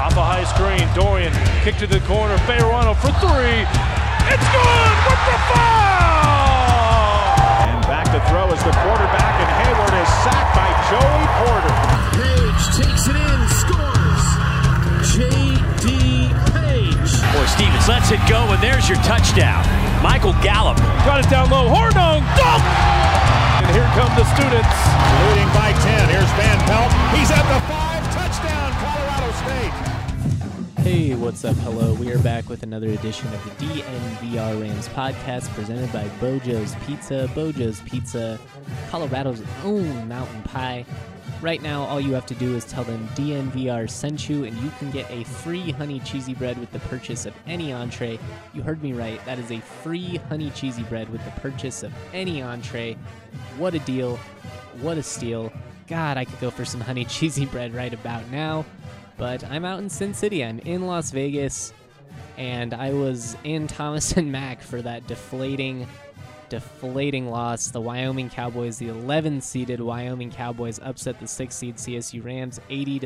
Off a high screen, Dorian kick to the corner, Fayerano for three. It's good with the foul! And back to throw is the quarterback, and Hayward is sacked by Joey Porter. Page takes it in, scores. J.D. Page. Boy, Stevens lets it go, and there's your touchdown. Michael Gallup. Got it down low, Hornung, dunk! And here come the students. Leading by 10, here's Van Pelt. He's at the 5, touchdown, Colorado State. Hey, what's up? Hello. We are back with another edition of the DNVR Rams podcast presented by Bojo's Pizza. Bojo's Pizza, Colorado's own mountain pie. Right now, all you have to do is tell them DNVR sent you, and you can get a free honey cheesy bread with the purchase of any entree. You heard me right. That is a free honey cheesy bread with the purchase of any entree. What a deal. What a steal. God, I could go for some honey cheesy bread right about now. But I'm out in Sin City. I'm in Las Vegas, and I was in Thomas and Mack for that deflating loss. The Wyoming Cowboys, the 11-seeded Wyoming Cowboys, upset the 6-seed CSU Rams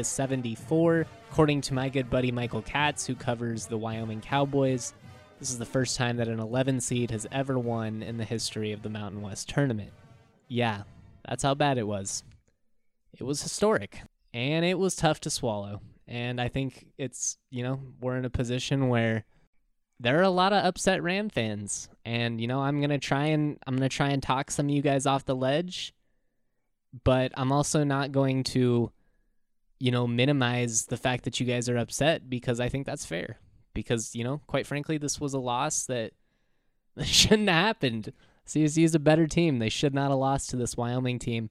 80-74. According to my good buddy Michael Katz, who covers the Wyoming Cowboys, this is the first time that an 11-seed has ever won in the history of the Mountain West Tournament. Yeah, that's how bad it was. It was historic, and it was tough to swallow. And I think it's, we're in a position where there are a lot of upset Ram fans, and I'm gonna try and talk some of you guys off the ledge, but I'm also not going to, minimize the fact that you guys are upset, because I think that's fair. Because quite frankly, this was a loss that shouldn't have happened. CSU is a better team. They should not have lost to this Wyoming team.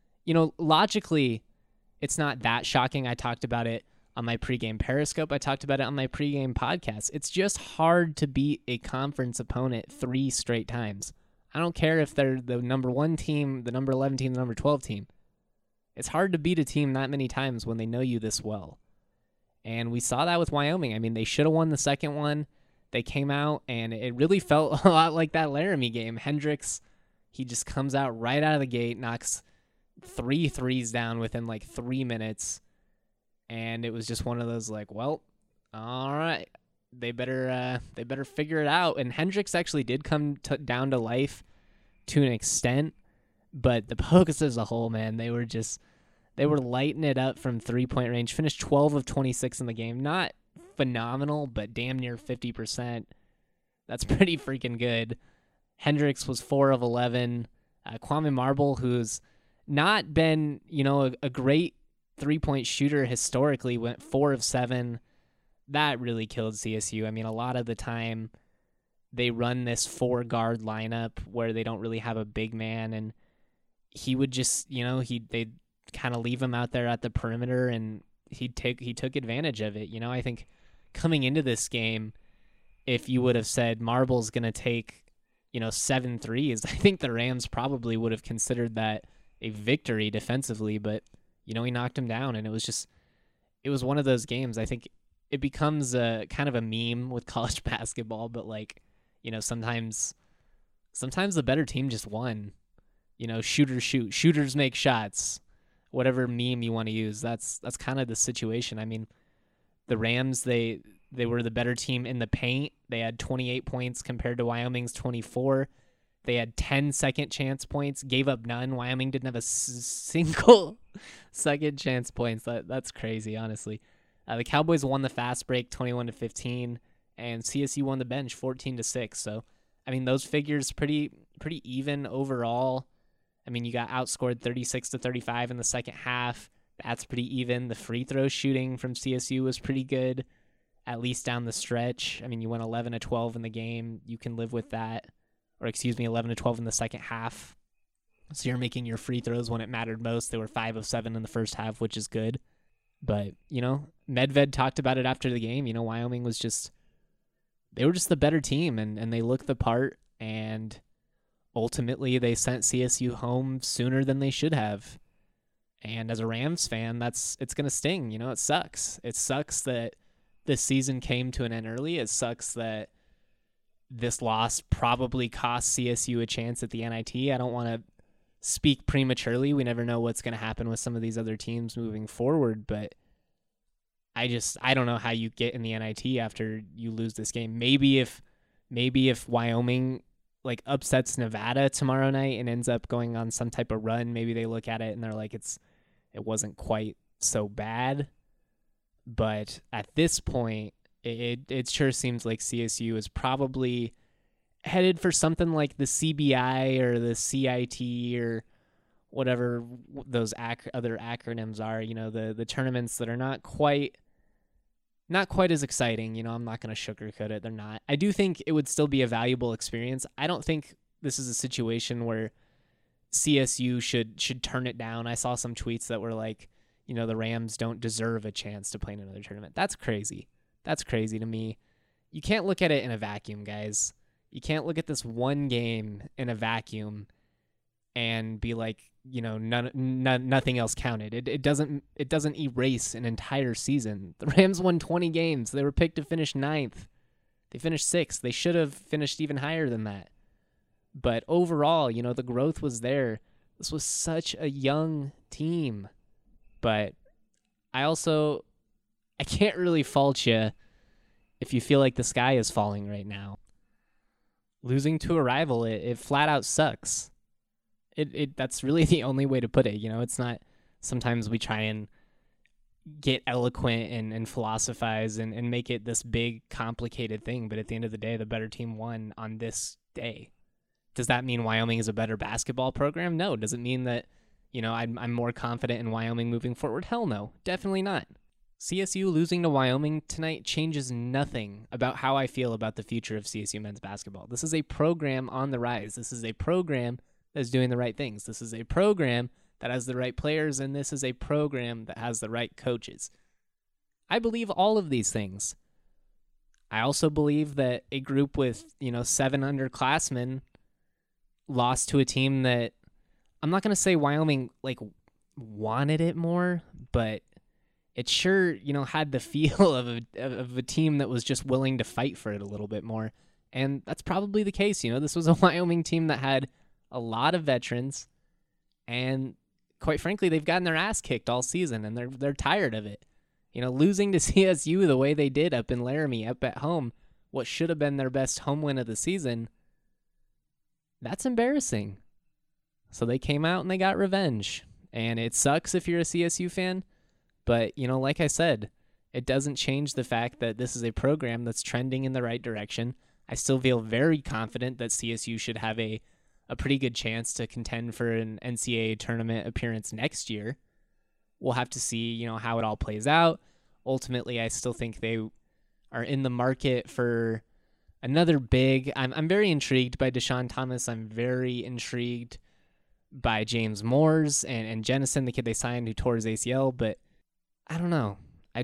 Logically, it's not that shocking. I talked about it on my pregame Periscope. I talked about it on my pregame podcast. It's just hard to beat a conference opponent 3 straight times. I don't care if they're the number 1 team, the number 11 team, the number 12 team. It's hard to beat a team that many times when they know you this well. And we saw that with Wyoming. I mean, they should have won the second one. They came out, and it really felt a lot like that Laramie game. Hendricks, he just comes out right out of the gate, knocks 3 threes down within like 3 minutes. And it was just one of those all right, they better figure it out. And Hendricks actually did come down to life to an extent, but the Pokers as a whole, man, they were lighting it up from 3-point range. Finished 12 of 26 in the game. Not phenomenal, but damn near 50%. That's pretty freaking good. Hendricks was 4 of 11. Kwame Marble, who's not been, a great 3-point shooter historically, went 4 of 7. That really killed CSU. I mean, a lot of the time they run this 4-guard lineup where they don't really have a big man, and he would just, they'd kind of leave him out there at the perimeter, and he took advantage of it. I think coming into this game, if you would have said Marble's going to take, 7 threes, I think the Rams probably would have considered that a victory defensively, but he knocked him down, and it was one of those games. I think it becomes a kind of a meme with college basketball, but sometimes the better team just won. Shooters shoot, shooters make shots, whatever meme you want to use. That's kind of the situation. I mean, the Rams, they were the better team in the paint. They had 28 points compared to Wyoming's 24. They had 10 second chance points, gave up none. Wyoming didn't have a single second chance points. That's crazy, honestly. The Cowboys won the fast break 21-15, and CSU won the bench 14-6. So, I mean, those figures pretty even overall. I mean, you got outscored 36-35 in the second half. That's pretty even. The free throw shooting from CSU was pretty good, at least down the stretch. I mean, you went 11-12 in the game. You can live with that. Or 11-12 in the second half. So you're making your free throws when it mattered most. They were 5 of 7 in the first half, which is good. But, Medved talked about it after the game. Wyoming was they were just the better team, and they looked the part, and ultimately they sent CSU home sooner than they should have. And as a Rams fan, it's going to sting. It sucks. It sucks that this season came to an end early. It sucks that this loss probably cost CSU a chance at the NIT. I don't want to speak prematurely. We never know what's going to happen with some of these other teams moving forward, but I don't know how you get in the NIT after you lose this game. Maybe if Wyoming like upsets Nevada tomorrow night and ends up going on some type of run, maybe they look at it and they're like, it wasn't quite so bad. But at this point, it sure seems like CSU is probably headed for something like the CBI or the CIT or whatever those other acronyms are, the tournaments that are not quite as exciting. I'm not going to sugarcoat it. They're not. I do think it would still be a valuable experience. I don't think this is a situation where CSU should turn it down. I saw some tweets that were like, the Rams don't deserve a chance to play in another tournament. That's crazy. That's crazy to me. You can't look at it in a vacuum, guys. You can't look at this one game in a vacuum and be like, nothing else counted. It doesn't erase an entire season. The Rams won 20 games. They were picked to finish 9th. They finished 6th. They should have finished even higher than that. But overall, the growth was there. This was such a young team. But I can't really fault you if you feel like the sky is falling right now. Losing to a rival, it flat out sucks. That's really the only way to put it. It's not, sometimes we try and get eloquent and philosophize and make it this big, complicated thing. But at the end of the day, the better team won on this day. Does that mean Wyoming is a better basketball program? No. Does it mean that, I'm more confident in Wyoming moving forward? Hell no. Definitely not. CSU losing to Wyoming tonight changes nothing about how I feel about the future of CSU men's basketball. This is a program on the rise. This is a program that's doing the right things. This is a program that has the right players, and this is a program that has the right coaches. I believe all of these things. I also believe that a group with, 7 underclassmen lost to a team that, I'm not going to say Wyoming wanted it more, but it sure, had the feel of a team that was just willing to fight for it a little bit more. And that's probably the case. This was a Wyoming team that had a lot of veterans, and quite frankly, they've gotten their ass kicked all season, and they're tired of it. Losing to CSU the way they did up in Laramie, up at home, what should have been their best home win of the season, that's embarrassing. So they came out and they got revenge. And it sucks if you're a CSU fan, but, like I said, it doesn't change the fact that this is a program that's trending in the right direction. I still feel very confident that CSU should have a pretty good chance to contend for an NCAA tournament appearance next year. We'll have to see, how it all plays out. Ultimately, I still think they are in the market for another big. I'm very intrigued by Deshaun Thomas. I'm very intrigued by James Moores and Jennison, the kid they signed who tore his ACL, but I don't know.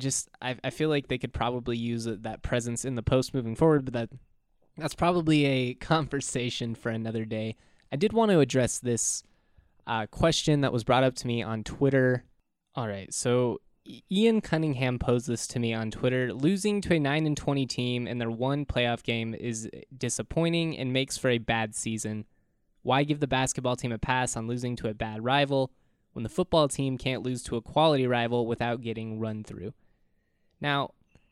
I feel like they could probably use that presence in the post moving forward, but that's probably a conversation for another day. I did want to address this question that was brought up to me on Twitter. All right, so Ian Cunningham posed this to me on Twitter. Losing to a 9-20 team in their one playoff game is disappointing and makes for a bad season. Why give the basketball team a pass on losing to a bad rival when the football team can't lose to a quality rival without getting run through? Now,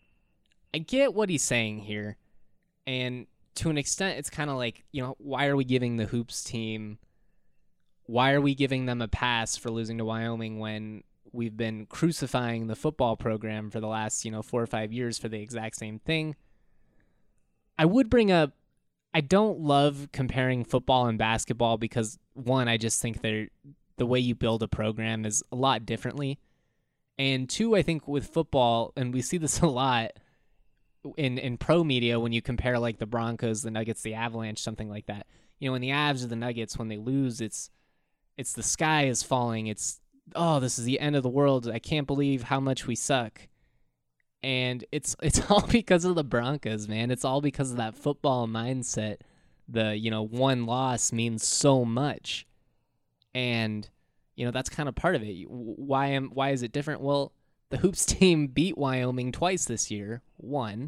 I get what he's saying here, and to an extent, it's kind of like, why are we giving the Hoops team, why are we giving them a pass for losing to Wyoming when we've been crucifying the football program for the last, 4 or 5 years for the exact same thing? I would bring up, I don't love comparing football and basketball because, one, I just think the way you build a program is a lot differently. And two, I think with football, and we see this a lot in pro media when you compare like the Broncos, the Nuggets, the Avalanche, something like that. When the Avs or the Nuggets, when they lose, it's the sky is falling. It's, oh, this is the end of the world. I can't believe how much we suck. And it's all because of the Broncos, man. It's all because of that football mindset. The, one loss means so much. And, that's kind of part of it. Why is it different? Well, the Hoops team beat Wyoming twice this year. One.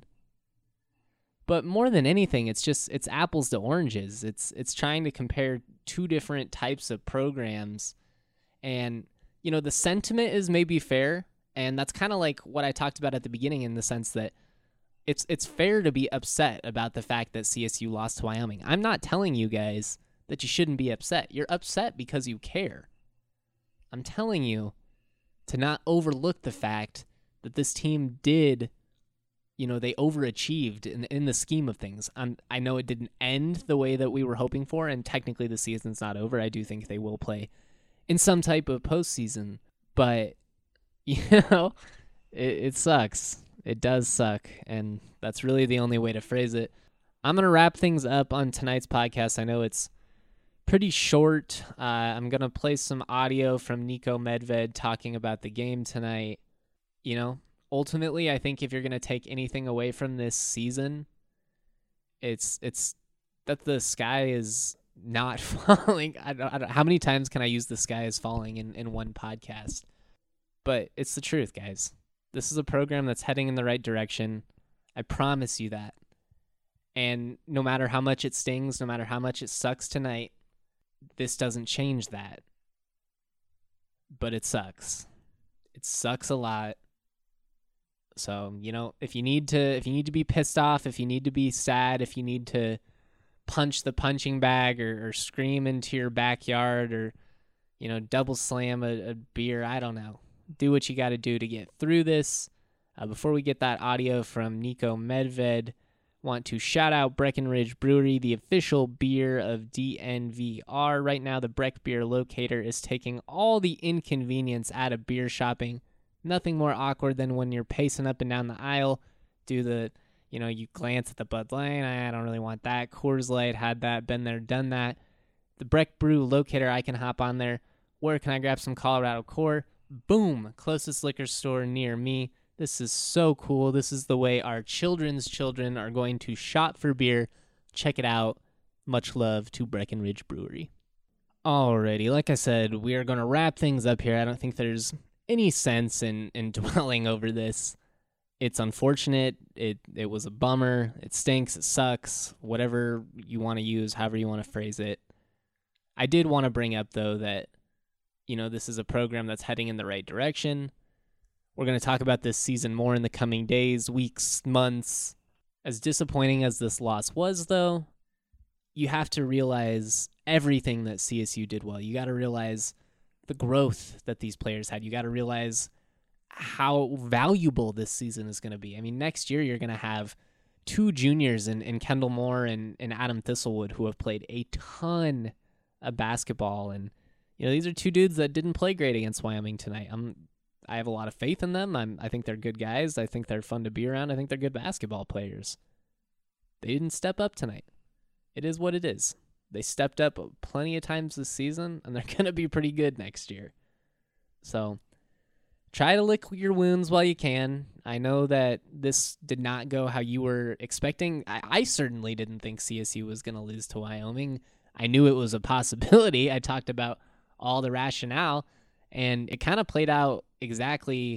But more than anything, it's apples to oranges. It's trying to compare two different types of programs. And, the sentiment is maybe fair. And that's kind of like what I talked about at the beginning, in the sense that it's fair to be upset about the fact that CSU lost to Wyoming. I'm not telling you guys that you shouldn't be upset. You're upset because you care. I'm telling you to not overlook the fact that this team did, they overachieved in the scheme of things. I know it didn't end the way that we were hoping for, and technically the season's not over. I do think they will play in some type of postseason, but, it sucks. It does suck, and that's really the only way to phrase it. I'm going to wrap things up on tonight's podcast. I know it's pretty short. I'm going to play some audio from Niko Medved talking about the game tonight. Ultimately, I think if you're going to take anything away from this season, it's that the sky is not falling. I don't, how many times can I use the sky is falling in one podcast? But it's the truth, guys. This is a program that's heading in the right direction. I promise you that. And no matter how much it stings, no matter how much it sucks tonight, this doesn't change that. But it sucks. It sucks a lot. So, if you need to be pissed off, if you need to be sad, if you need to punch the punching bag or scream into your backyard or, double slam a beer, I don't know. Do what you got to do to get through this. Before we get that audio from Niko Medved, want to shout out Breckenridge Brewery, the official beer of DNVR. Right now, the Breck Beer Locator is taking all the inconvenience out of beer shopping. Nothing more awkward than when you're pacing up and down the aisle, you glance at the Bud Light, I don't really want that. Coors Light had that, been there, done that. The Breck Brew Locator, I can hop on there. Where can I grab some Colorado Core? Boom, closest liquor store near me. This is so cool. This is the way our children's children are going to shop for beer. Check it out. Much love to Breckenridge Brewery. Alrighty, like I said, we are going to wrap things up here. I don't think there's any sense in dwelling over this. It's unfortunate. It was a bummer. It stinks. It sucks. Whatever you want to use, however you want to phrase it. I did want to bring up, though, that this is a program that's heading in the right direction. We're going to talk about this season more in the coming days, weeks, months. As disappointing as this loss was, though, you have to realize everything that CSU did well. You got to realize the growth that these players had. You got to realize how valuable this season is going to be. I mean, next year you're going to have two juniors in Kendall Moore and Adam Thistlewood who have played a ton of basketball, and these are two dudes that didn't play great against Wyoming tonight. I have a lot of faith in them. I think they're good guys. I think they're fun to be around. I think they're good basketball players. They didn't step up tonight. It is what it is. They stepped up plenty of times this season, and they're going to be pretty good next year. So try to lick your wounds while you can. I know that this did not go how you were expecting. I certainly didn't think CSU was going to lose to Wyoming. I knew it was a possibility. I talked about all the rationale, and it kind of played out exactly,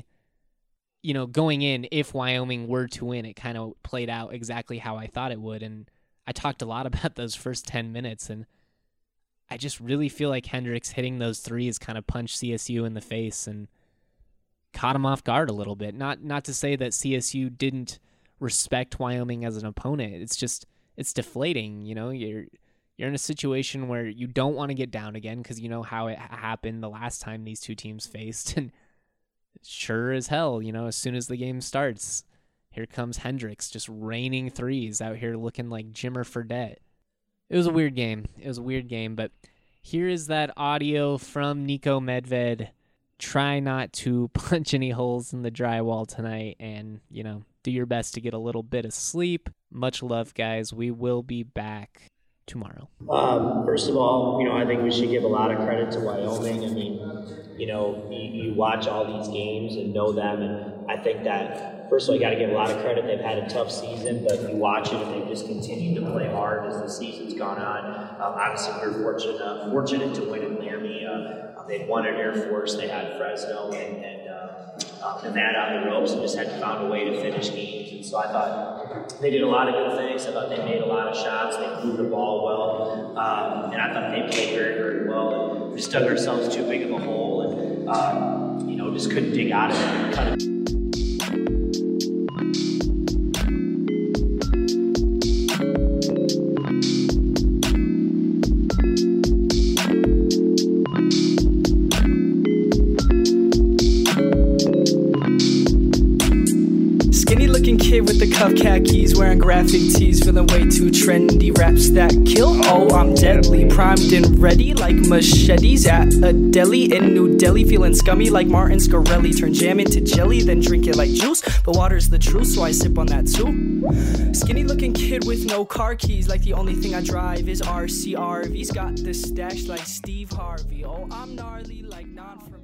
going in, if Wyoming were to win, it kind of played out exactly how I thought it would. And I talked a lot about those first 10 minutes, and I just really feel like Hendricks hitting those threes kind of punched CSU in the face and caught him off guard a little bit. Not to say that CSU didn't respect Wyoming as an opponent. It's deflating. You're in a situation where you don't want to get down again because you know how it happened the last time these two teams faced. And sure as hell, as soon as the game starts, here comes Hendricks just raining threes out here looking like Jimmer Fredette. It was a weird game, but here is that audio from Niko Medved. Try not to punch any holes in the drywall tonight and, do your best to get a little bit of sleep. Much love, guys. We will be back tomorrow. First of all, I think we should give a lot of credit to Wyoming. I mean, you watch all these games and know them, and I think that, first of all, you got to give a lot of credit. They've had a tough season, but you watch it and they've just continued to play hard as the season's gone on. Obviously, we were fortunate to win in Laramie. They'd won at Air Force. They had Fresno and Nevada on the ropes and just had found a way to finish games. And so I thought they did a lot of good things. I thought they made a lot of shots. They moved the ball well. And I thought they played very, very well. And we just dug ourselves too big of a hole. And, just couldn't dig out of it and cut it. Kid with the cuff khakis, wearing graphic tees, feeling way too trendy. Raps that kill, oh I'm deadly, primed and ready like machetes at a deli in New Delhi. Feeling scummy like Martin Scarelli, turn jam into jelly, then drink it like juice. But water's the truth, so I sip on that too. Skinny looking kid with no car keys, like the only thing I drive is RCRVs. Got the stash like Steve Harvey, oh I'm gnarly like non